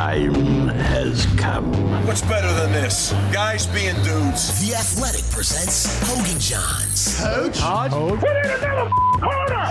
time has come. What's better than this? Guys being dudes. The Athletic presents Hogan Johns. Coach? Put in another corner!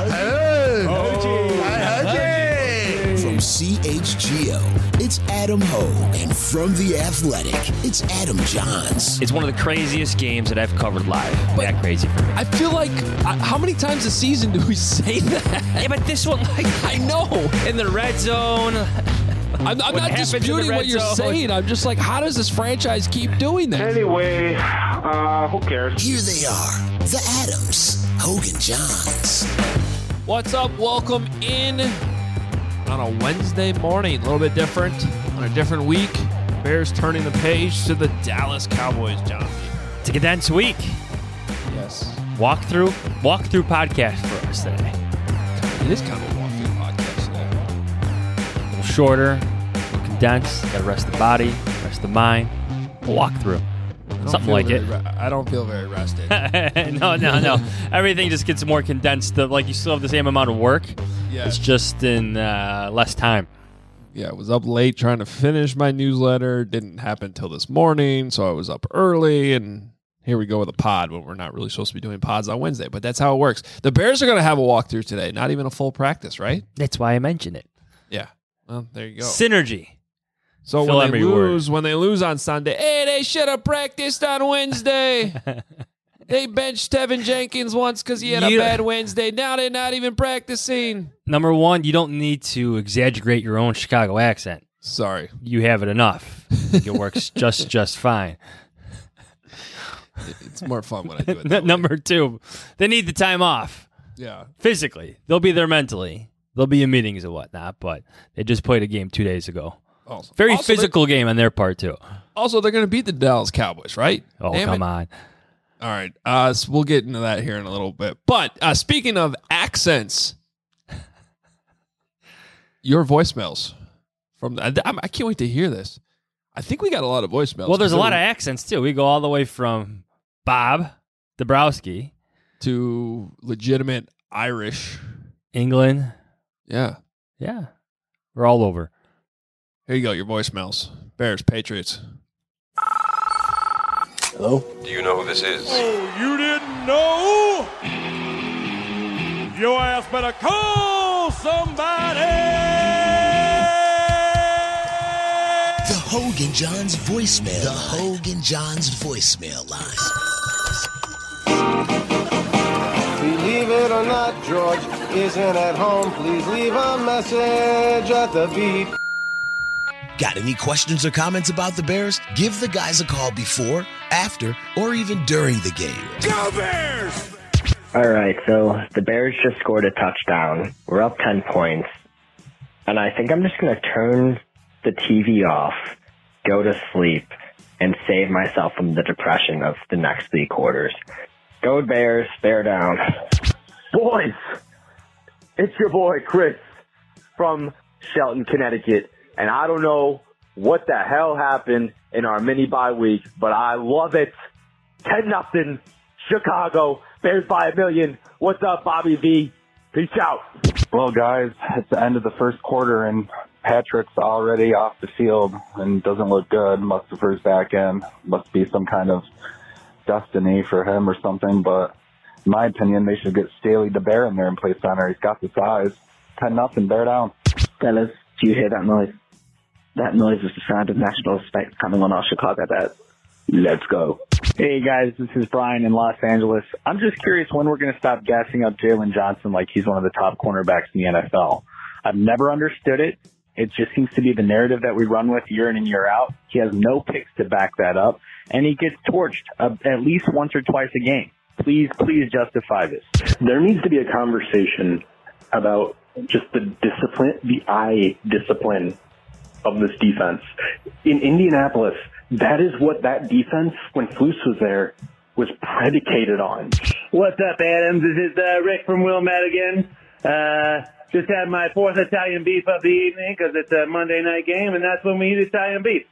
From CHGO, it's Adam Hogue. And from The Athletic, it's Adam Johns. It's one of the craziest games that I've covered live. That crazy for me. I feel like, how many times a season do we say that? Yeah, but this one, I know. In the red zone. I'm not disputing what you're saying. I'm just like, how does this franchise keep doing that? Anyway, who cares? Here they are, the Adams, Hogan Johns. What's up? Welcome in on a Wednesday morning. A little bit different, on a different week. Bears turning the page to the Dallas Cowboys, John. It's a condensed week. Yes. Walkthrough podcast for us today. It is kind of a walkthrough podcast today. A little shorter, a little condensed. Got to rest the body, rest the mind. A walkthrough. Something like it. I don't feel very rested. No. Everything just gets more condensed. Like you still have the same amount of work. Yeah. It's just in less time. Yeah, I was up late trying to finish my newsletter. Didn't happen until this morning, so I was up early, and here we go with a pod when we're not really supposed to be doing pods on Wednesday, but that's how it works. The Bears are going to have a walkthrough today, not even a full practice, right? That's why I mentioned it. Yeah. Well, there you go. Synergy. So Fill when word. they lose on Sunday, hey, they should have practiced on Wednesday. They benched Tevin Jenkins once because he had a bad Wednesday. Now they're not even practicing. Number one, you don't need to exaggerate your own Chicago accent. Sorry. You have it enough. I think it works just fine. It's more fun when I do it that way. Number two, they need the time off. Yeah. Physically. They'll be there mentally. They'll be in meetings and whatnot, but they just played a game 2 days ago. Very physical game on their part, too. Also, they're going to beat the Dallas Cowboys, right? Oh, Damn come it. on. All right. So we'll get into that here in a little bit. But speaking of accents, your voicemails. I can't wait to hear this. I think we got a lot of voicemails. Well, there's a lot of accents, too. We go all the way from Bob Dabrowski to legitimate Irish. England. Yeah. Yeah. We're all over. Here you go, your voicemails. Bears, Patriots. Hello? Do you know who this is? Oh, you didn't know? Your ass better call somebody! The Hogan Johns voicemail. The Hogan Johns voicemail line. Believe it or not, George isn't at home. Please leave a message at the beep. Got any questions or comments about the Bears? Give the guys a call before, after, or even during the game. Go Bears! All right, so the Bears just scored a touchdown. We're up 10 points. And I think I'm just going to turn the TV off, go to sleep, and save myself from the depression of the next 3 quarters. Go Bears, bear down. Boys, it's your boy Chris from Shelton, Connecticut. And I don't know what the hell happened in our mini bye week, but I love it. 10-0, Chicago, Bears by 1,000,000. What's up, Bobby V? Peace out. Well, guys, it's the end of the first quarter, and Patrick's already off the field and doesn't look good. Mustipher's back in. Must be some kind of destiny for him or something, but in my opinion, they should get Staley DeBear in there and play center. He's got the size. 10-0, bear down. Fellas, do you hear that noise? That noise is the sound of national respect coming on our Chicago Bears. Let's go. Hey guys, this is Brian in Los Angeles. I'm just curious when we're going to stop gassing up Jalen Johnson like he's one of the top cornerbacks in the NFL. I've never understood it. It just seems to be the narrative that we run with year in and year out. He has no picks to back that up, and he gets torched at least once or twice a game. Please justify this. There needs to be a conversation about just the discipline, the eye discipline of this defense. In Indianapolis, that is what that defense, when Flus was there, was predicated on. What's up, Adams? This is Rick from Wilmette again. Just had my 4th Italian beef of the evening because it's a Monday night game, and that's when we eat Italian beef.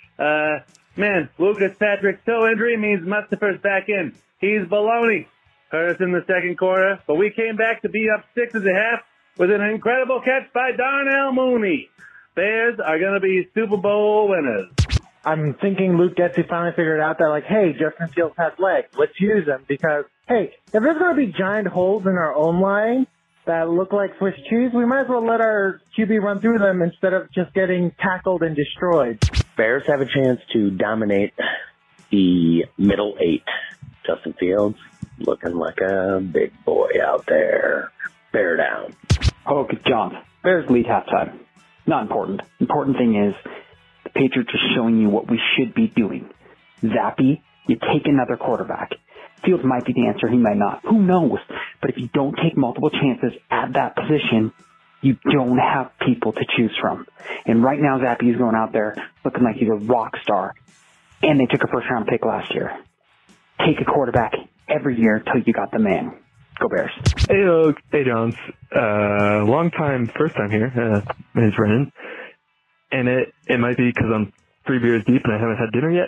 Man, Lucas Patrick's toe injury means Mustipher's back in. He's baloney. Hurt us in the second quarter, but we came back to be up 6 at the half with an incredible catch by Darnell Mooney. Bears are going to be Super Bowl winners. I'm thinking Luke Getsy finally figured out that, like, hey, Justin Fields has legs. Let's use them because, hey, if there's going to be giant holes in our own line that look like Swiss cheese, we might as well let our QB run through them instead of just getting tackled and destroyed. Bears have a chance to dominate the middle 8. Justin Fields looking like a big boy out there. Bear down. Okay, John. Bears lead halftime. Not important. Important thing is the Patriots are showing you what we should be doing. Zappy, you take another quarterback. Fields might be the answer. He might not. Who knows? But if you don't take multiple chances at that position, you don't have people to choose from. And right now, Zappy is going out there looking like he's a rock star. And they took a first-round pick last year. Take a quarterback every year until you got the man. Go Bears. Hey, Johns. Long time, first time here. My name's Brennan. And it might be because I'm 3 beers deep and I haven't had dinner yet.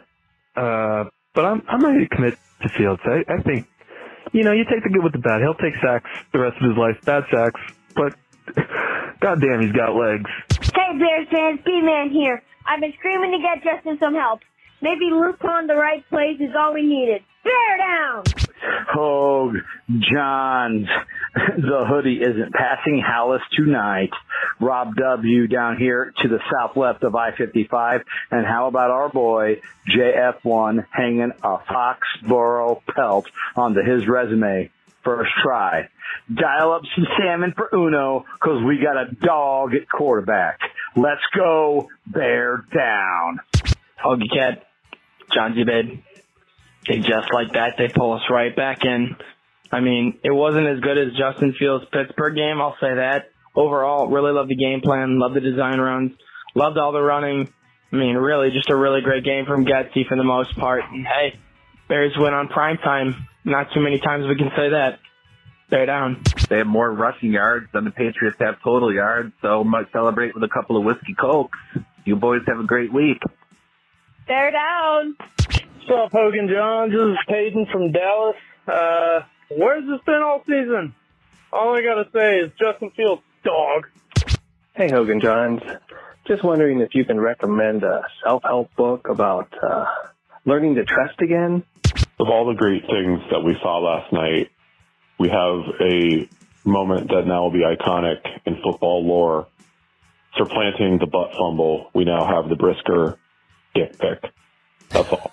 But I'm ready to commit to Fields. I think, you take the good with the bad. He'll take sacks the rest of his life, bad sacks, but goddamn, he's got legs. Hey, Bears fans, B-Man here. I've been screaming to get Justin some help. Maybe Luke on the right place is all we needed. Bear down! Hogue, Johns, the hoodie isn't passing Hallis tonight. Rob W. down here to the south left of I-55. And how about our boy, JF1, hanging a Foxborough pelt onto his resume? First try. Dial up some salmon for Uno, because we got a dog at quarterback. Let's go, bear down. Hoagie Cat, John Zubed. They just like that, they pull us right back in. I mean, it wasn't as good as Justin Fields' Pittsburgh game, I'll say that. Overall, really loved the game plan, loved the design runs, loved all the running. I mean, really, just a really great game from Getsy for the most part. And hey, Bears win on prime time. Not too many times we can say that. Bear down. They have more rushing yards than the Patriots have total yards, so might celebrate with a couple of whiskey cokes. You boys have a great week. Bear down. What's up, Hogan John? This is Peyton from Dallas. Where's this been all season? All I gotta say is Justin Fields, dog. Hey, Hogan Johns. Just wondering if you can recommend a self-help book about learning to trust again. Of all the great things that we saw last night, we have a moment that now will be iconic in football lore. Supplanting the butt fumble, we now have the Brisker dick pick. That's all.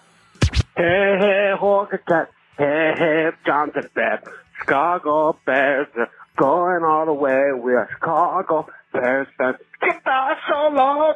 Hey, Hogan Cat. Hey, Johnson Bear. Chicago Bears going all the way. We are Chicago Bears. Get that solo.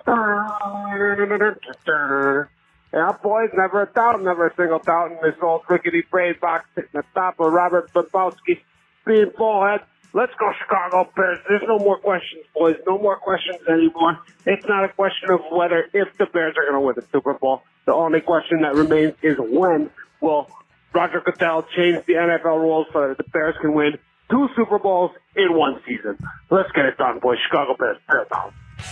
Yeah, boys, never a doubt, never a single doubt in this old rickety brain box sitting at the top of Robert Bobowski being bullhead. Let's go, Chicago Bears. There's no more questions, boys. No more questions anymore. It's not a question of whether, if the Bears are going to win the Super Bowl. The only question that remains is when will Roger Goodell change the NFL rules so that the Bears can win 2 Super Bowls in 1 season. Let's get it done, boys. Chicago Bears, bear down.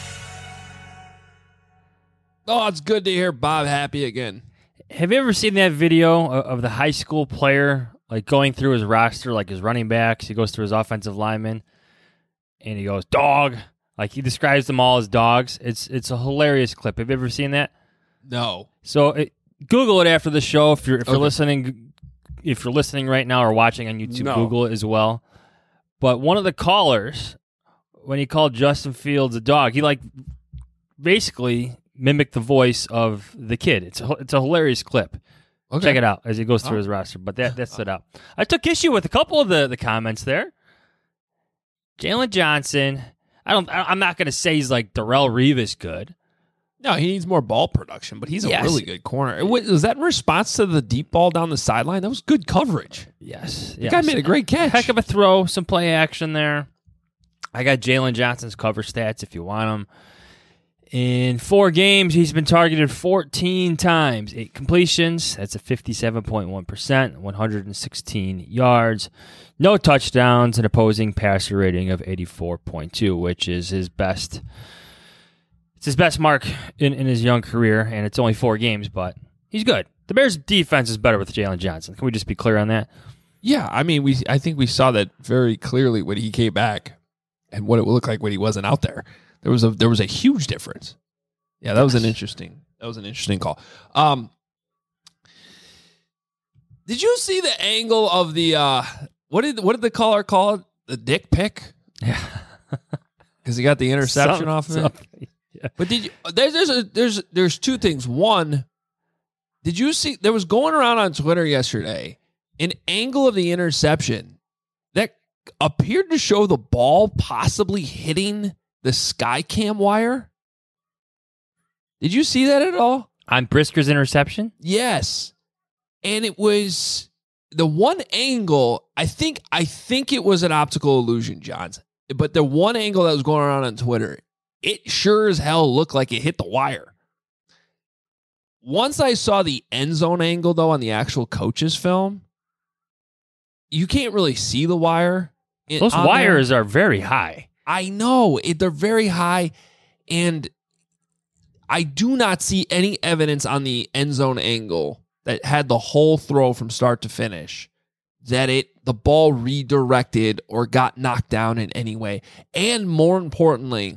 Oh, it's good to hear Bob happy again. Have you ever seen that video of the high school player like going through his roster, like his running backs? He goes through his offensive linemen, and he goes, dog. Like he describes them all as dogs. It's a hilarious clip. Have you ever seen that? No. So Google it after the show if you're listening. If you're listening right now or watching on YouTube, Google it as well. But one of the callers, when he called Justin Fields a dog, he like basically mimicked the voice of the kid. It's a hilarious clip. Okay. Check it out as he goes through his roster. But that stood out. I took issue with a couple of the comments there. Jalen Johnson. I'm not going to say he's like Darrelle Revis good. No, he needs more ball production, but he's a really good corner. Was that in response to the deep ball down the sideline? That was good coverage. Yes. The guy made a great catch. Heck of a throw, some play action there. I got Jalen Johnson's cover stats if you want them. In 4 games, he's been targeted 14 times. 8 completions. That's a 57.1%, 116 yards. No touchdowns, an opposing passer rating of 84.2, which is his best. It's his best mark in his young career, and it's only 4 games, but he's good. The Bears' defense is better with Jalen Johnson. Can we just be clear on that? Yeah, I mean, I think we saw that very clearly when he came back and what it would look like when he wasn't out there. There was a huge difference. Yeah, that was an interesting call. Did you see the angle of the what did the caller call it? The dick pic? Yeah. Because he got the interception off of it. Yeah. But did you there's two things. One, did you see there was going around on Twitter yesterday an angle of the interception that appeared to show the ball possibly hitting the Skycam wire? Did you see that at all? On Brisker's interception? Yes. And it was the one angle, I think it was an optical illusion, Johns. But the one angle that was going around on Twitter, it sure as hell looked like it hit the wire. Once I saw the end zone angle, though, on the actual coach's film, you can't really see the wire. Those wires are very high. I know. They're very high, and I do not see any evidence on the end zone angle that had the whole throw from start to finish that the ball redirected or got knocked down in any way. And more importantly,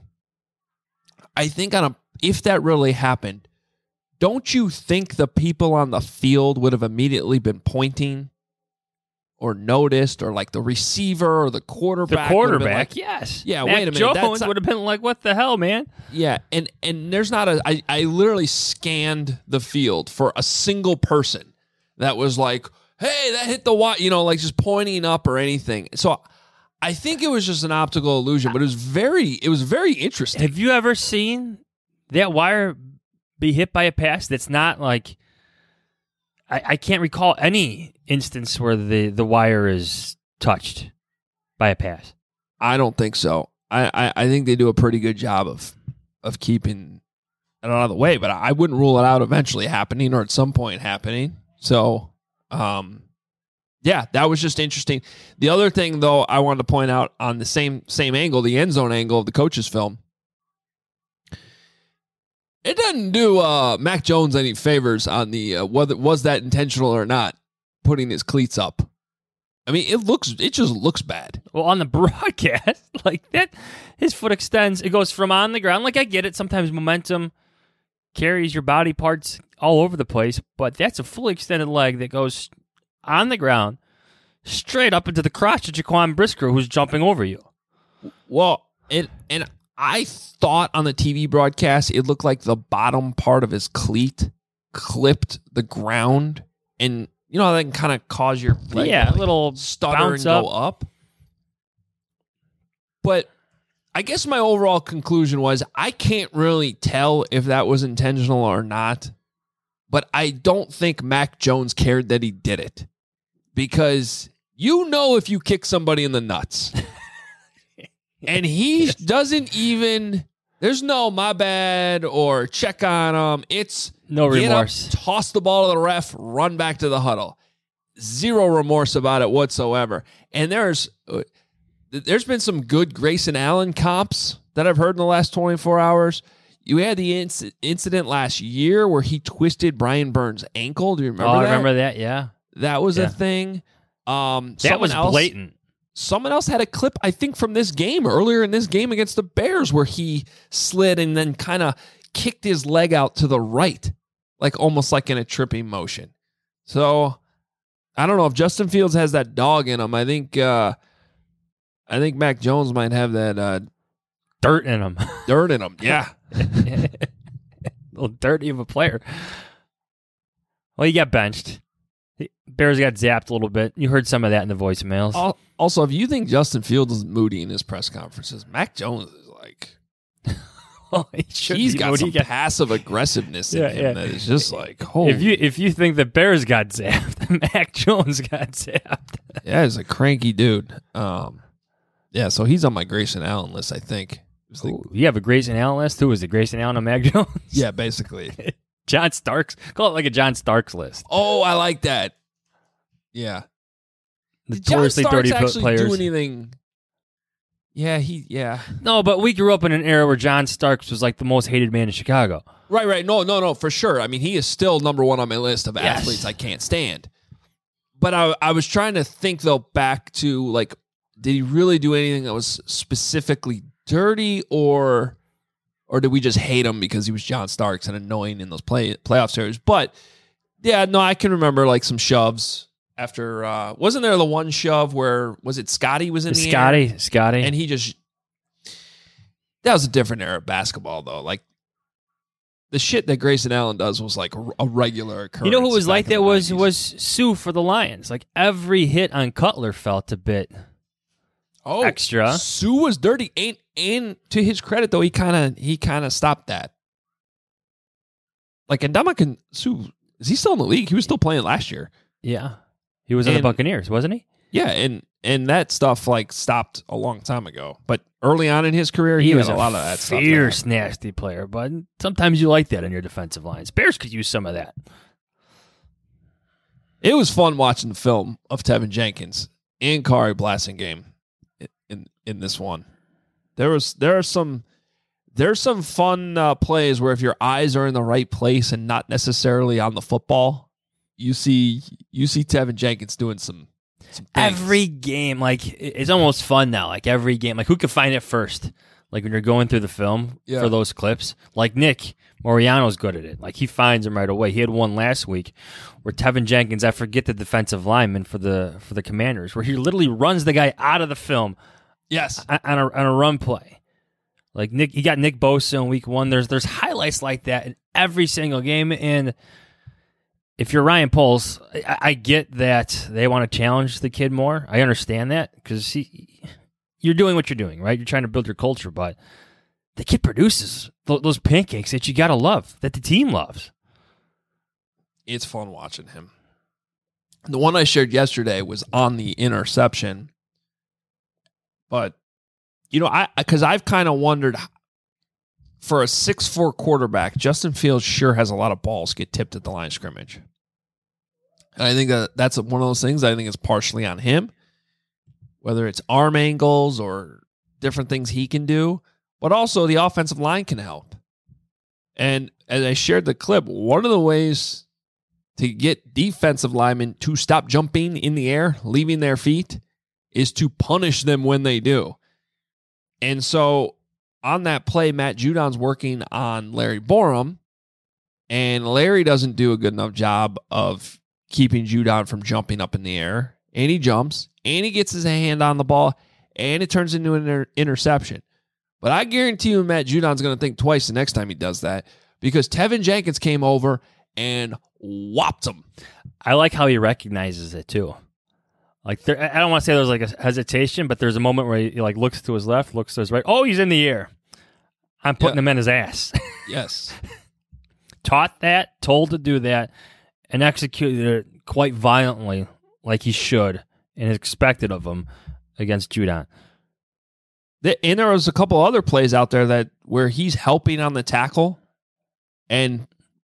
I think if that really happened, don't you think the people on the field would have immediately been pointing or noticed, or like the receiver or the quarterback? The quarterback, yes. Yeah, Mac wait a minute. Jones would have been like, what the hell, man? Yeah, and there's not I literally scanned the field for a single person that was like, hey, that hit the wire, like just pointing up or anything. So I think it was just an optical illusion, but it was very interesting. Have you ever seen that wire be hit by a pass that's not like, I can't recall any instance where the wire is touched by a pass. I don't think so. I think they do a pretty good job of keeping it out of the way, but I wouldn't rule it out eventually happening or at some point happening. So, yeah, that was just interesting. The other thing, though, I wanted to point out on the same angle, the end zone angle of the coach's film, it doesn't do Mac Jones any favors on the whether was that intentional or not, putting his cleats up. I mean, it just looks bad. Well, on the broadcast, like that, his foot extends. It goes from on the ground. Like, I get it. Sometimes momentum carries your body parts all over the place, but that's a fully extended leg that goes on the ground straight up into the crotch of Jaquan Brisker, who's jumping over you. Well, and I thought on the TV broadcast it looked like the bottom part of his cleat clipped the ground, and you know how that can kind of cause your leg a little stutter and go up. But I guess my overall conclusion was I can't really tell if that was intentional or not, but I don't think Mac Jones cared that he did it, because if you kick somebody in the nuts. And he doesn't even, there's no my bad or check on him. It's no remorse. Toss the ball to the ref, run back to the huddle. Zero remorse about it whatsoever. And there's been some good Grayson Allen comps that I've heard in the last 24 hours. You had the incident last year where he twisted Brian Burns' ankle. Do you remember that? I remember that, yeah. That was a thing. That was blatant. Someone else had a clip, I think, from this game, earlier in this game against the Bears, where he slid and then kind of kicked his leg out to the right, like almost like in a tripping motion. So I don't know if Justin Fields has that dog in him. I think Mac Jones might have that dirt in him. Dirt in him, yeah. A little dirty of a player. Well, he got benched. Bears got zapped a little bit. You heard some of that in the voicemails. Also, if you think Justin Fields is moody in his press conferences, Mac Jones is like, he's got some passive aggressiveness in him that is just like, holy. If you think the Bears got zapped, Mac Jones got zapped. Yeah, he's a cranky dude. Yeah, so he's on my Grayson Allen list, I think. You have a Grayson Allen list? Who is it, Grayson Allen or Mac Jones? Yeah, basically. John Starks. Call it like a John Starks list. Oh, I like that. Yeah. Notoriously dirty players. Do anything? Yeah. No, but we grew up in an era where John Starks was like the most hated man in Chicago. Right. No, for sure. I mean, he is still number one on my list of athletes I can't stand. But I was trying to think, though, back to, like, did he really do anything that was specifically dirty, or or did we just hate him because he was John Starks and annoying in those playoff series? But yeah, no, I can remember like some shoves after. Wasn't there the one shove where was it Scotty was in the air? Scotty, and he just. That was a different era of basketball, though. Like the shit that Grayson Allen does was like a regular occurrence. You know who was like that was Sue for the Lions. Like every hit on Cutler felt a bit extra. Sue was dirty, and to his credit though, he kind of stopped that. Like Ndamukong Sue, is he still in the league? He was still playing last year. Yeah, he was in the Buccaneers, wasn't he? Yeah, and that stuff like stopped a long time ago. But early on in his career, he was a lot of that stuff. Fierce, nasty player, but sometimes you like that on your defensive lines. Bears could use some of that. It was fun watching the film of Tevin Jenkins and Kari Blasingame in this one. There's some fun plays where if your eyes are in the right place and not necessarily on the football, you see Tevin Jenkins doing some every game, like it's almost fun now. Like every game, like who could find it first? Like when you're going through the film for those clips, like Nick Moriano's good at it. Like he finds them right away. He had one last week where Tevin Jenkins, I forget the defensive lineman for the Commanders, where he literally runs the guy out of the film. Yes, on a run play. Like he got Nick Bosa in week 1. There's highlights like that in every single game. And if you're Ryan Poles, I get that they want to challenge the kid more. I understand that because you're doing what you're doing, right? You're trying to build your culture, but the kid produces those pancakes that you got to love, that the team loves. It's fun watching him. The one I shared yesterday was on the interception. But, because I've kind of wondered, for a 6'4" quarterback, Justin Fields sure has a lot of balls get tipped at the line of scrimmage. And I think that's one of those things I think is partially on him, whether it's arm angles or different things he can do, but also the offensive line can help. And as I shared the clip, one of the ways to get defensive linemen to stop jumping in the air, leaving their feet, is to punish them when they do. And so on that play, Matt Judon's working on Larry Borum, and Larry doesn't do a good enough job of keeping Judon from jumping up in the air. And he jumps, and he gets his hand on the ball, and it turns into an interception. But I guarantee you Matt Judon's going to think twice the next time he does that, because Tevin Jenkins came over and whopped him. I like how he recognizes it, too. Like I don't want to say there's like a hesitation, but there's a moment where he like looks to his left, looks to his right. Oh, he's in the air. I'm putting him in his ass. Yes. Taught that, told to do that, and executed it quite violently like he should and expected of him against Judon. And there was a couple other plays out there where he's helping on the tackle and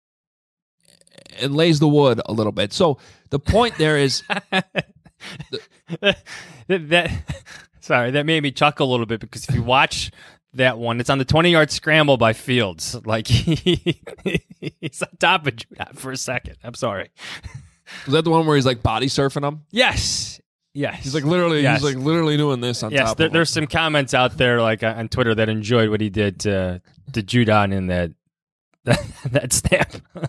lays the wood a little bit. So the point there is... that made me chuckle a little bit, because if you watch that one, it's on the 20-yard scramble by Fields. Like he's on top of Judon for a second. I'm sorry. Was that the one where he's like body surfing him? Yes. He's like literally doing this on top of him. There's some comments out there like on Twitter that enjoyed what he did to Judon in that snap.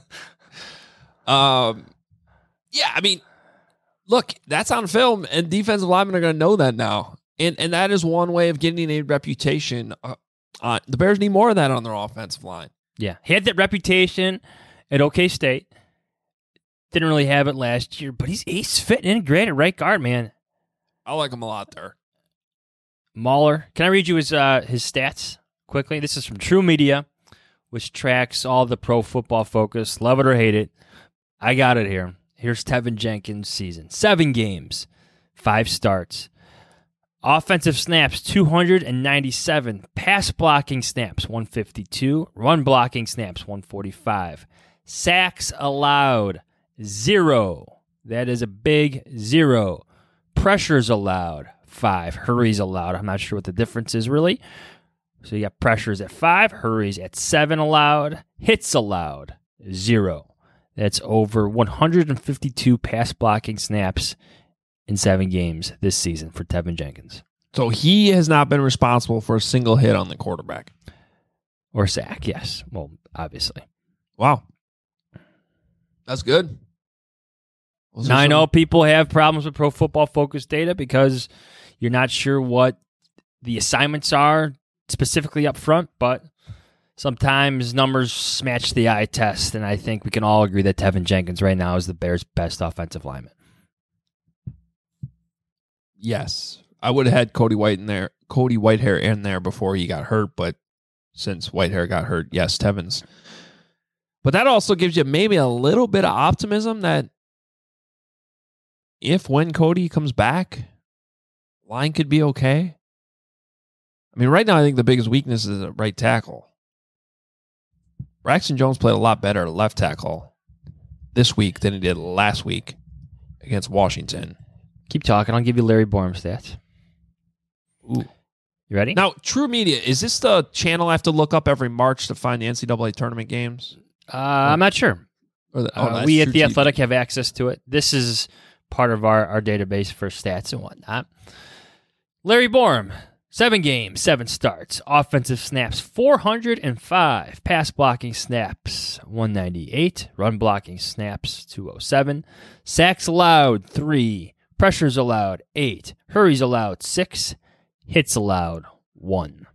Yeah, I mean, look, that's on film, and defensive linemen are going to know that now. And that is one way of getting a reputation. The Bears need more of that on their offensive line. Yeah, he had that reputation at OK State. Didn't really have it last year, but he's fitting in great at right guard, man. I like him a lot there. Mahler. Can I read you his stats quickly? This is from True Media, which tracks all the Pro Football Focus. Love it or hate it. I got it here. Here's Tevin Jenkins' season. 7 games, 5 starts. Offensive snaps, 297. Pass blocking snaps, 152. Run blocking snaps, 145. Sacks allowed, 0. That is a big 0. Pressures allowed, 5. Hurries allowed. I'm not sure what the difference is really. So you got pressures at 5, hurries at 7 allowed. Hits allowed, 0. That's over 152 pass blocking snaps in 7 games this season for Tevin Jenkins. So he has not been responsible for a single hit on the quarterback. Or sack, yes. Well, obviously. Wow. That's good. Now, I know people have problems with Pro Football Focus data because you're not sure what the assignments are specifically up front, but sometimes numbers match the eye test, and I think we can all agree that Tevin Jenkins right now is the Bears' best offensive lineman. Yes. I would have had Cody Whitehair in there before he got hurt, but since Whitehair got hurt, yes, Tevin's. But that also gives you maybe a little bit of optimism that when Cody comes back, line could be okay. I mean, right now I think the biggest weakness is at right tackle. Braxton Jones played a lot better at left tackle this week than he did last week against Washington. Keep talking. I'll give you Larry Borum stats. Ooh. You ready? Now, True Media, is this the channel I have to look up every March to find the NCAA tournament games? I'm not sure. We at The Athletic have access to it. This is part of our database for stats and whatnot. Larry Borum, 7 games, 7 starts. Offensive snaps, 405. Pass blocking snaps, 198. Run blocking snaps, 207. Sacks allowed, 3. Pressures allowed, 8. Hurries allowed, 6. Hits allowed, 1.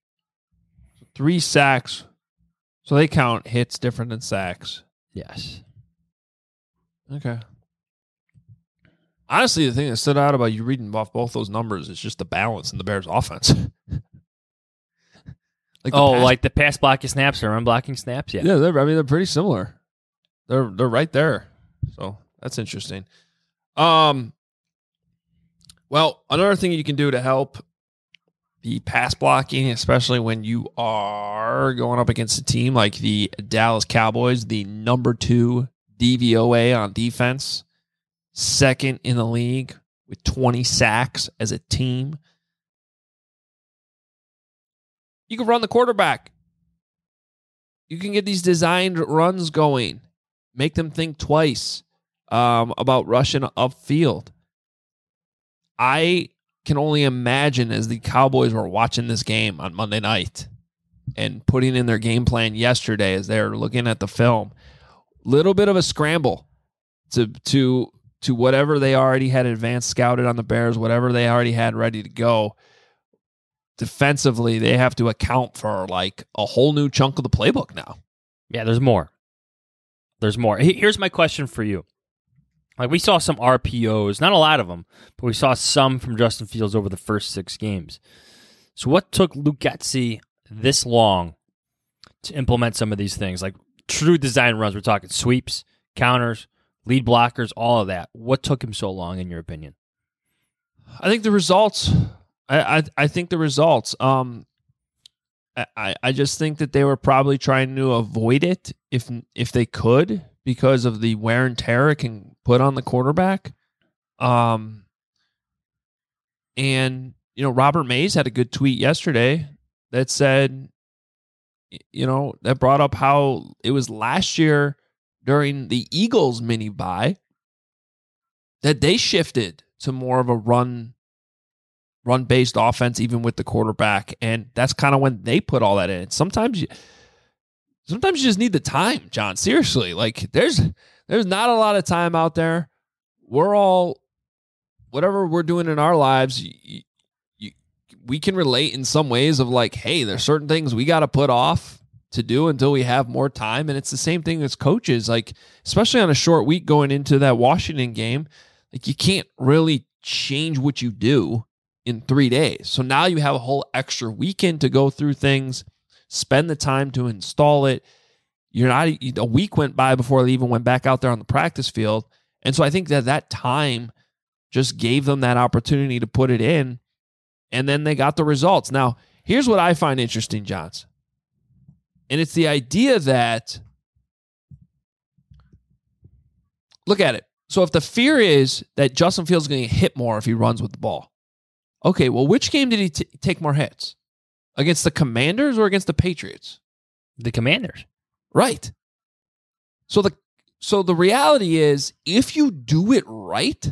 3 sacks. So they count hits different than sacks. Yes. Okay. Honestly, the thing that stood out about you reading off both those numbers is just the balance in the Bears' offense. Like the pass blocking snaps or run blocking snaps? Yeah. Yeah, they're pretty similar. They're right there. So that's interesting. Well, another thing you can do to help the pass blocking, especially when you are going up against a team like the Dallas Cowboys, the number 2 DVOA on defense, second in the league with 20 sacks as a team. You can run the quarterback. You can get these designed runs going. Make them think twice about rushing upfield. I can only imagine as the Cowboys were watching this game on Monday night and putting in their game plan yesterday as they're looking at the film, little bit of a scramble to whatever they already had advanced scouted on the Bears, whatever they already had ready to go. Defensively, they have to account for like a whole new chunk of the playbook now. Yeah, there's more. Here's my question for you. Like, we saw some RPOs, not a lot of them, but we saw some from Justin Fields over the first 6 games. So what took Luke Getsy this long to implement some of these things? Like true design runs, we're talking sweeps, counters, lead blockers, all of that. What took him so long, in your opinion? I think the results. I think the results. I just think that they were probably trying to avoid it if they could, because of the wear and tear it can put on the quarterback. And Robert Mays had a good tweet yesterday that said, that brought up how it was last year during the Eagles mini bye that they shifted to more of a run-based offense, even with the quarterback. And that's kind of when they put all that in. Sometimes you just need the time, John. Seriously, like there's not a lot of time out there. We're all, whatever we're doing in our lives, we can relate in some ways of like, hey, there's certain things we got to put off to do until we have more time. And it's the same thing as coaches, like especially on a short week going into that Washington game, like you can't really change what you do in 3 days. So now you have a whole extra weekend to go through things, spend the time to install it. A week went by before they even went back out there on the practice field. And so I think that time just gave them that opportunity to put it in, and then they got the results. Now, here's what I find interesting, Johns. And it's the idea that, look at it. So if the fear is that Justin Fields is going to get hit more if he runs with the ball, okay, well, which game did he take more hits? Against the Commanders or against the Patriots? The Commanders. Right. So the reality is, if you do it right,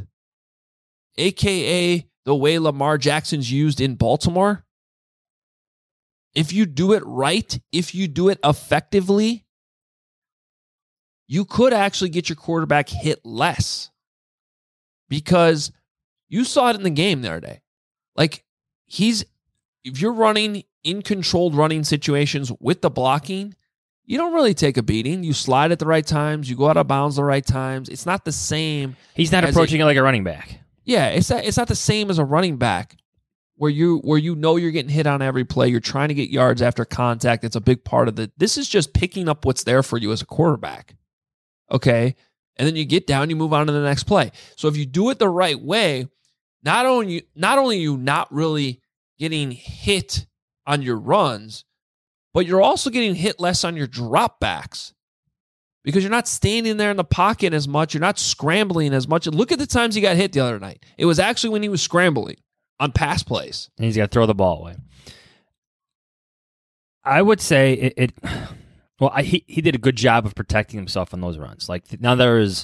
a.k.a. the way Lamar Jackson's used in Baltimore, if you do it right, if you do it effectively, you could actually get your quarterback hit less. Because you saw it in the game the other day. Like, if you're running in controlled running situations with the blocking, you don't really take a beating. You slide at the right times. You go out of bounds the right times. It's not the same. He's not approaching it like a running back. Yeah, it's not the same as a running back where you know you're getting hit on every play. You're trying to get yards after contact. It's a big part of it. This is just picking up what's there for you as a quarterback. Okay? And then you get down, you move on to the next play. So if you do it the right way, not only are you not really getting hit on your runs, but you're also getting hit less on your dropbacks because you're not standing there in the pocket as much. You're not scrambling as much. Look at the times he got hit the other night. It was actually when he was scrambling on pass plays. And he's got to throw the ball away. I would say he did a good job of protecting himself on those runs. Like, now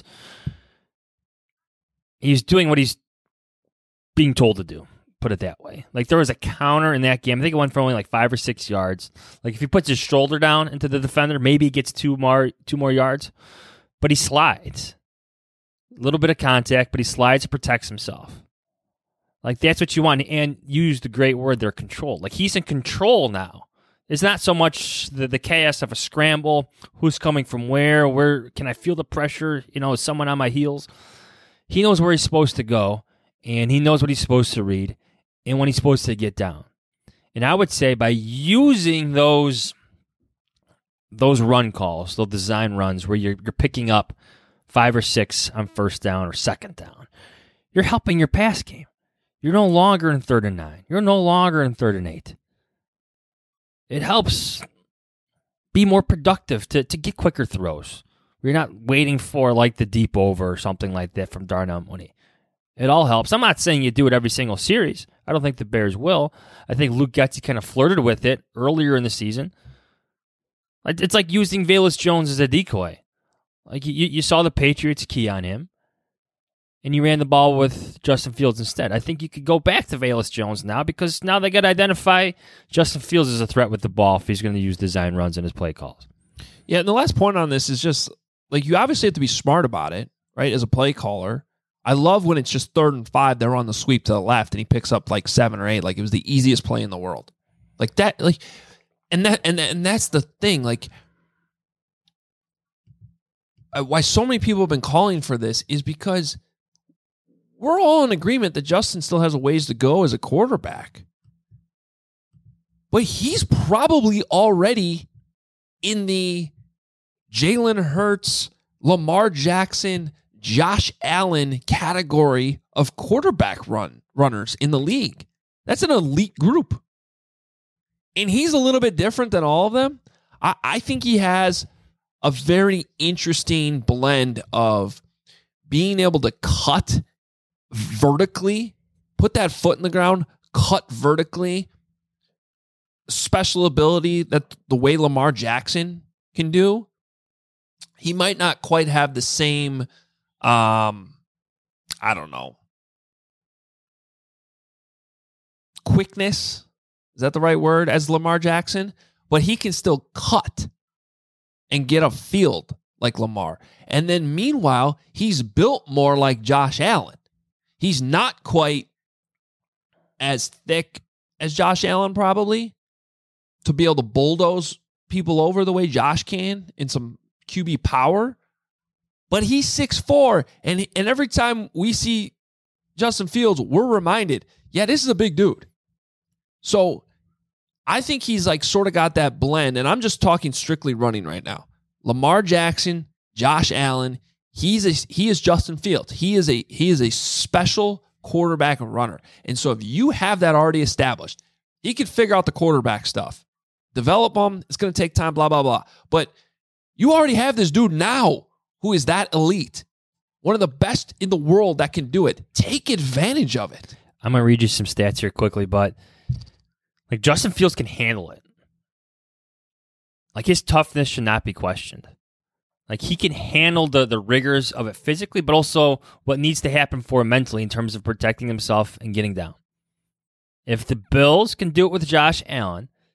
he's doing what he's being told to do. Put it that way. Like, there was a counter in that game. I think it went for only like 5 or 6 yards. Like, if he puts his shoulder down into the defender, maybe he gets two more yards. But he slides. A little bit of contact, but he slides and protects himself. Like, that's what you want. And you used the great word there, control. Like, he's in control now. It's not so much the chaos of a scramble. Who's coming from where can I feel the pressure? Is someone on my heels? He knows where he's supposed to go, and he knows what he's supposed to read and when he's supposed to get down. And I would say by using those run calls, those design runs where you're picking up 5 or 6 on first down or second down, you're helping your pass game. You're no longer in 3rd and 9. You're no longer in 3rd and 8. It helps be more productive to get quicker throws. You're not waiting for like the deep over or something like that from Darnell Mooney. It all helps. I'm not saying you do it every single series. I don't think the Bears will. I think Luke Getsy kind of flirted with it earlier in the season. It's like using Velus Jones as a decoy. Like you saw the Patriots key on him, and you ran the ball with Justin Fields instead. I think you could go back to Velus Jones now because now they got to identify Justin Fields as a threat with the ball if he's going to use design runs in his play calls. Yeah, and the last point on this is just, like, you obviously have to be smart about it, right, as a play caller. I love when it's just 3rd and 5, they're on the sweep to the left, and he picks up like 7 or 8, like it was the easiest play in the world. Like that, like, and that's the thing, like, why so many people have been calling for this is because we're all in agreement that Justin still has a ways to go as a quarterback. But he's probably already in the Jalen Hurts, Lamar Jackson, Josh Allen category of quarterback runners in the league. That's an elite group. And he's a little bit different than all of them. I think he has a very interesting blend of being able to cut vertically, put that foot in the ground, cut vertically, special ability that the way Lamar Jackson can do. He might not quite have the same, quickness, is that the right word, as Lamar Jackson? But he can still cut and get a field like Lamar. And then meanwhile, he's built more like Josh Allen. He's not quite as thick as Josh Allen probably to be able to bulldoze people over the way Josh can in some QB power. But he's 6'4", and every time we see Justin Fields, we're reminded, yeah, this is a big dude. So I think he's like sort of got that blend, and I'm just talking strictly running right now. Lamar Jackson, Josh Allen, he is Justin Fields. He is a special quarterback and runner. And so if you have that already established, he can figure out the quarterback stuff. Develop them. It's going to take time, blah, blah, blah. But you already have this dude now who is that elite. One of the best in the world that can do it. Take advantage of it. I'm going to read you some stats here quickly, but like Justin Fields can handle it. Like his toughness should not be questioned. Like he can handle the rigors of it physically, but also what needs to happen for him mentally in terms of protecting himself and getting down. If the Bills can do it with Josh Allen,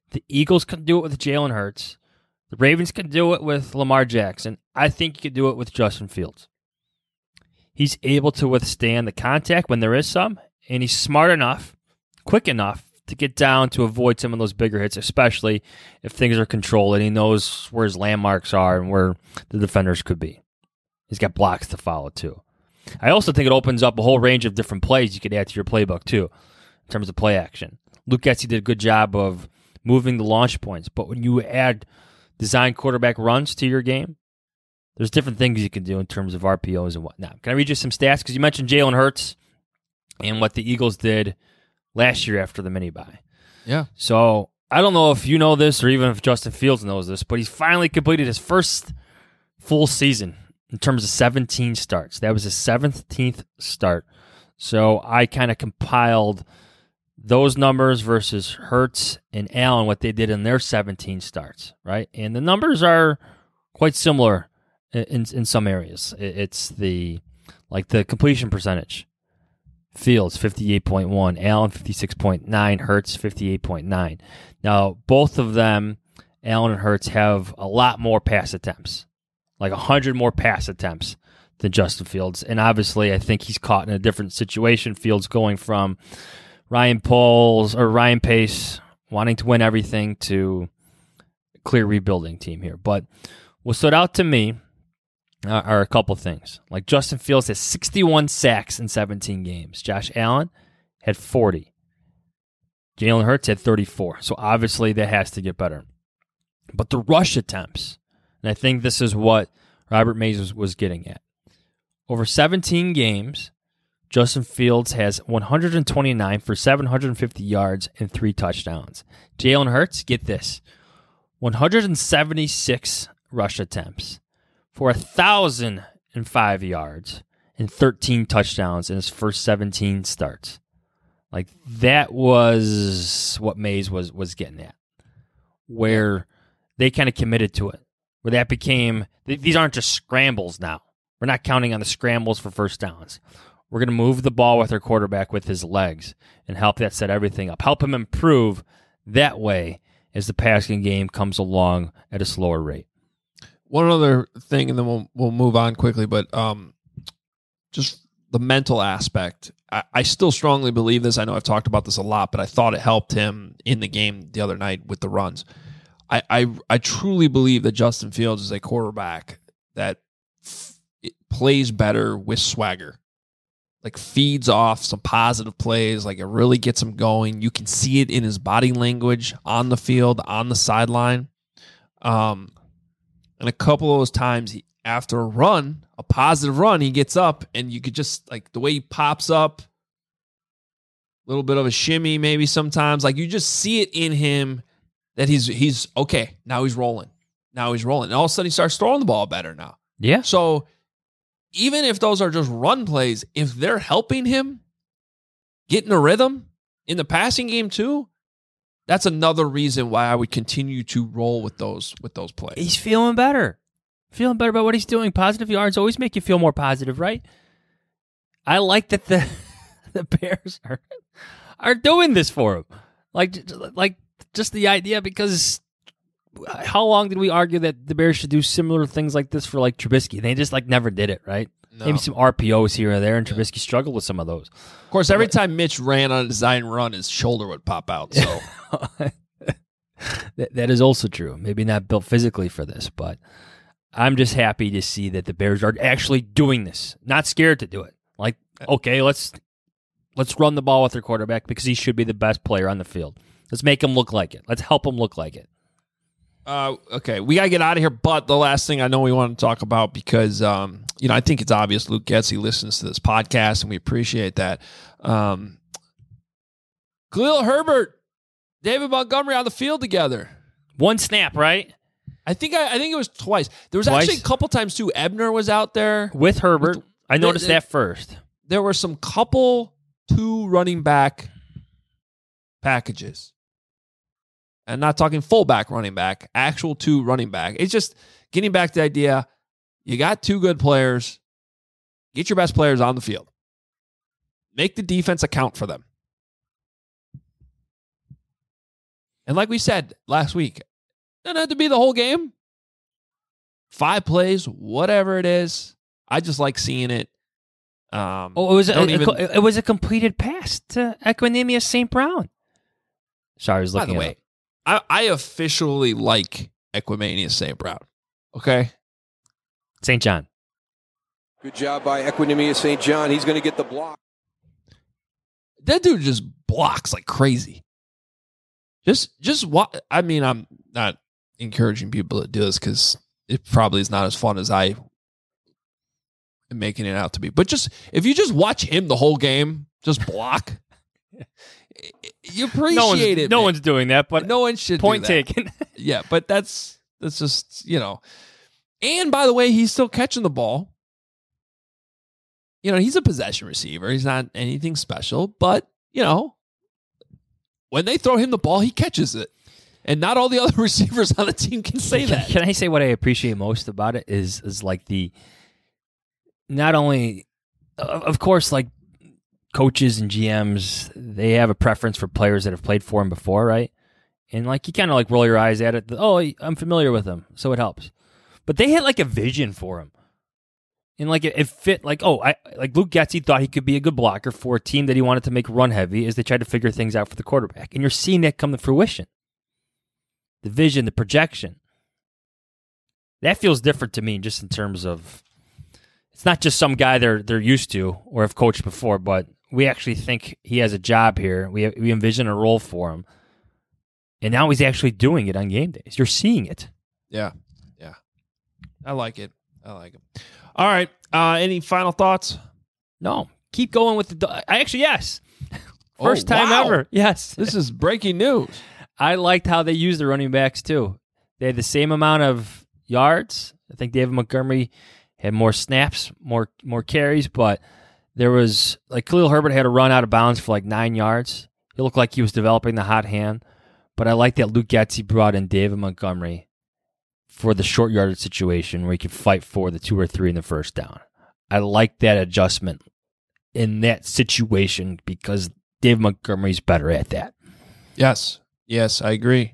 The Eagles can do it with Jalen Hurts. The Ravens can do it with Lamar Jackson. I think you could do it with Justin Fields. He's able to withstand the contact when there is some, and he's smart enough, quick enough to get down to avoid some of those bigger hits, especially if things are controlled and he knows where his landmarks are and where the defenders could be. He's got blocks to follow, too. I also think it opens up a whole range of different plays you could add to your playbook, too, in terms of play action. Luke Getsy did a good job of moving the launch points, but when you add design quarterback runs to your game, there's different things you can do in terms of RPOs and whatnot. Can I read you some stats? Because you mentioned Jalen Hurts and what the Eagles did last year after the mini-bye. Yeah. So I don't know if you know this or even if Justin Fields knows this, but he's finally completed his first full season in terms of 17 starts. That was his 17th start. So I kind of compiled those numbers versus Hurts and Allen, what they did in their 17 starts, right? And the numbers are quite similar in some areas. It's the completion percentage. Fields, 58.1. Allen, 56.9. Hurts, 58.9. Now, both of them, Allen and Hurts, have a lot more pass attempts, like 100 more pass attempts than Justin Fields. And obviously, I think he's caught in a different situation. Fields going from Ryan Pace wanting to win everything to a clear rebuilding team here. But what stood out to me are a couple things. Like Justin Fields has 61 sacks in 17 games. Josh Allen had 40. Jalen Hurts had 34. So obviously that has to get better. But the rush attempts, and I think this is what Robert Mays was getting at. Over 17 games, Justin Fields has 129 for 750 yards and 3 touchdowns. Jalen Hurts, get this, 176 rush attempts for 1,005 yards and 13 touchdowns in his first 17 starts. Like, that was what Mays was getting at, where they kind of committed to it, where that became, these aren't just scrambles now. We're not counting on the scrambles for first downs. We're going to move the ball with our quarterback with his legs and help that set everything up. Help him improve that way as the passing game comes along at a slower rate. One other thing, and then we'll move on quickly, but just the mental aspect. I still strongly believe this. I know I've talked about this a lot, but I thought it helped him in the game the other night with the runs. I truly believe that Justin Fields is a quarterback that plays better with swagger. Like, feeds off some positive plays, like it really gets him going. You can see it in his body language on the field, on the sideline. And a couple of those times after a positive run, he gets up and you could just, like, the way he pops up, a little bit of a shimmy maybe sometimes. Like, you just see it in him that he's okay. Now he's rolling. And all of a sudden he starts throwing the ball better now. Yeah. So even if those are just run plays, if they're helping him get in a rhythm in the passing game too, that's another reason why I would continue to roll with those plays. He's feeling better. Feeling better about what he's doing. Positive yards always make you feel more positive, right? I like that the Bears are doing this for him. Like just the idea, because how long did we argue that the Bears should do similar things like this for, like, Trubisky? They just, like, never did it, right? No. Maybe some RPOs here and there, and Trubisky struggled with some of those. Of course, every time Mitch ran on a design run, his shoulder would pop out. So that is also true. Maybe not built physically for this, but I'm just happy to see that the Bears are actually doing this. Not scared to do it. Like, okay, let's run the ball with their quarterback because he should be the best player on the field. Let's make him look like it. Let's help him look like it. Okay, we got to get out of here, but the last thing I know we want to talk about, because I think it's obvious Luke Getsy listens to this podcast, and we appreciate that. Khalil Herbert, David Montgomery on the field together. One snap, right? I think it was twice. There was actually a couple times, too. Ebner was out there. With Herbert. I noticed that first. There were some two running back packages. And not talking fullback running back, actual 2 running back. It's just getting back to the idea, you got 2 good players, get your best players on the field. Make the defense account for them. And like we said last week, doesn't have to be the whole game. 5 plays, whatever it is. I just like seeing it. It was a completed pass to Equanimeous St. Brown. Sorry, I was looking. By the way, I officially like Equanimeous St. Brown. Okay, St. John. Good job by Equanimeous St. John. He's going to get the block. That dude just blocks like crazy. Just what? I mean, I'm not encouraging people to do this because it probably is not as fun as I am making it out to be. But just if you just watch him the whole game, just block. You appreciate it. No one's doing that, but no one should. Point do that. taken. Yeah, but that's just, you know. And by the way, he's still catching the ball. You know, he's a possession receiver. He's not anything special, but you know, when they throw him the ball, he catches it. And not all the other receivers on the team can say that. Can I say what I appreciate most about it is like the, not only, of course, like coaches and GMs, they have a preference for players that have played for him before, right? And like you kind of like roll your eyes at it. Oh, I'm familiar with him, so it helps. But they had like a vision for him. And like it fit like, like Luke Getsy thought he could be a good blocker for a team that he wanted to make run heavy as they tried to figure things out for the quarterback. And you're seeing that come to fruition. The vision, the projection. That feels different to me just in terms of, it's not just some guy they're used to or have coached before, but we actually think he has a job here. We envision a role for him. And now he's actually doing it on game days. You're seeing it. Yeah. I like it. All right. Any final thoughts? No. Keep going with yes. First time ever. Yes. This is breaking news. I liked how they used the running backs too. They had the same amount of yards. I think David Montgomery had more snaps, more carries, but there was like Khalil Herbert had a run out of bounds for like 9 yards. He looked like he was developing the hot hand, but I like that Luke Getsy brought in David Montgomery for the short yardage situation where he could fight for the 2 or 3 in the first down. I like that adjustment in that situation because David Montgomery's better at that. Yes, I agree.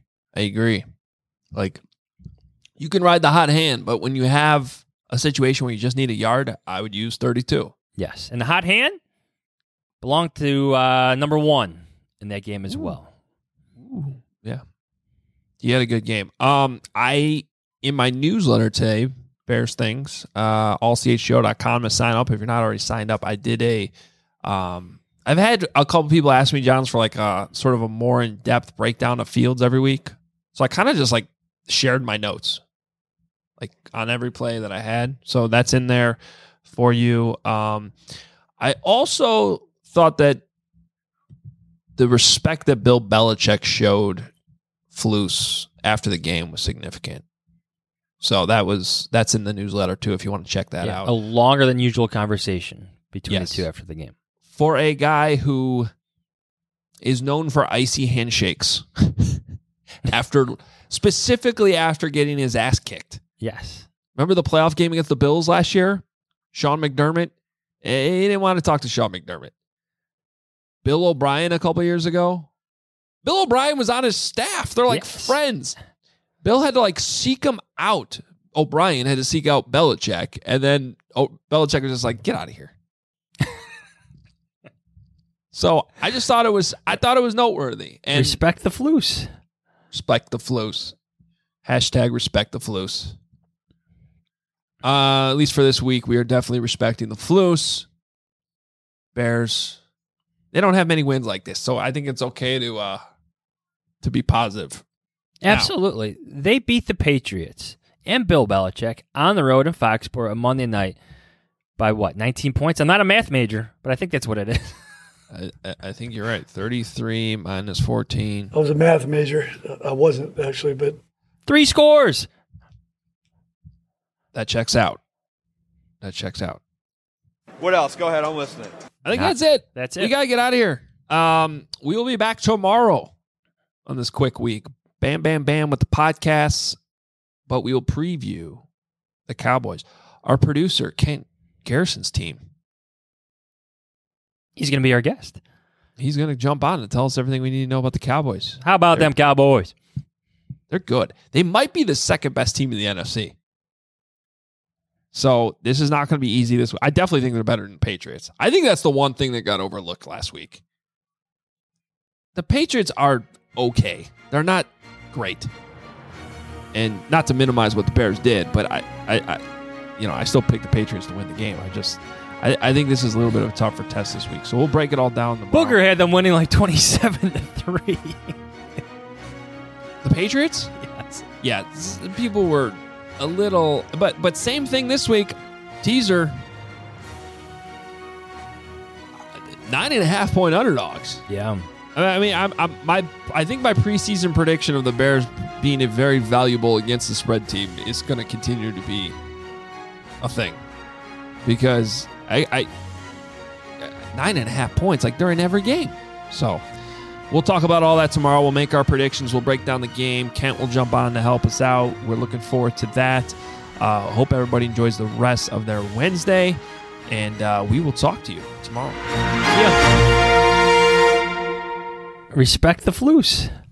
Like, you can ride the hot hand, but when you have a situation where you just need a yard, I would use 32. Yes, and the hot hand belonged to number 1 in that game as well. Ooh, yeah. He had a good game. In my newsletter today, Bears Things, allchgo.com to sign up if you're not already signed up. I did I've had a couple people ask me, Johns, for like a sort of a more in-depth breakdown of Fields every week. So I kind of just like shared my notes like on every play that I had. So that's in there for you. I also thought that the respect that Bill Belichick showed Flus after the game was significant. So that's in the newsletter too, if you want to check that out. A longer than usual conversation between the two after the game. For a guy who is known for icy handshakes specifically after getting his ass kicked. Yes. Remember the playoff game against the Bills last year? Sean McDermott? He didn't want to talk to Sean McDermott. Bill O'Brien a couple years ago? Bill O'Brien was on his staff. They're like friends. Bill had to like seek him out. O'Brien had to seek out Belichick, and then Belichick was just like, "Get out of here." So I just thought it was noteworthy. And respect the Flus. Respect the Flus. Hashtag respect the Flus. At least for this week, we are definitely respecting the Flus. Bears, they don't have many wins like this, so I think it's okay to be positive. Absolutely. Now, they beat the Patriots and Bill Belichick on the road in Foxborough on Monday night by what, 19 points? I'm not a math major, but I think that's what it is. I think you're right. 33 minus 14. I was a math major. I wasn't actually, but 3 scores. That checks out. What else? Go ahead. I'm listening. I think that's it. That's it. We got to get out of here. We will be back tomorrow on this quick week. Bam, bam, bam with the podcasts. But we will preview the Cowboys. Our producer, Kent Garrison's team. He's going to be our guest. he's going to jump on and tell us everything we need to know about the Cowboys. How about them Cowboys? They're good. They might be the second best team in the NFC. So this is not going to be easy this week. I definitely think they're better than the Patriots. I think that's the one thing that got overlooked last week. The Patriots are okay. They're not great. And not to minimize what the Bears did, but I still pick the Patriots to win the game. I think this is a little bit of a tougher test this week. So we'll break it all down tomorrow. Booger had them winning like 27-3. The Patriots? Yes. Yeah, people were a little, but same thing this week. Teaser. 9.5-point underdogs. Yeah. I mean, I think my preseason prediction of the Bears being a very valuable against the spread team is going to continue to be a thing, because I 9.5 points, like they're in every game. So we'll talk about all that tomorrow. We'll make our predictions. We'll break down the game. Kent will jump on to help us out. We're looking forward to that. Hope everybody enjoys the rest of their Wednesday, and we will talk to you tomorrow. Respect the Floos.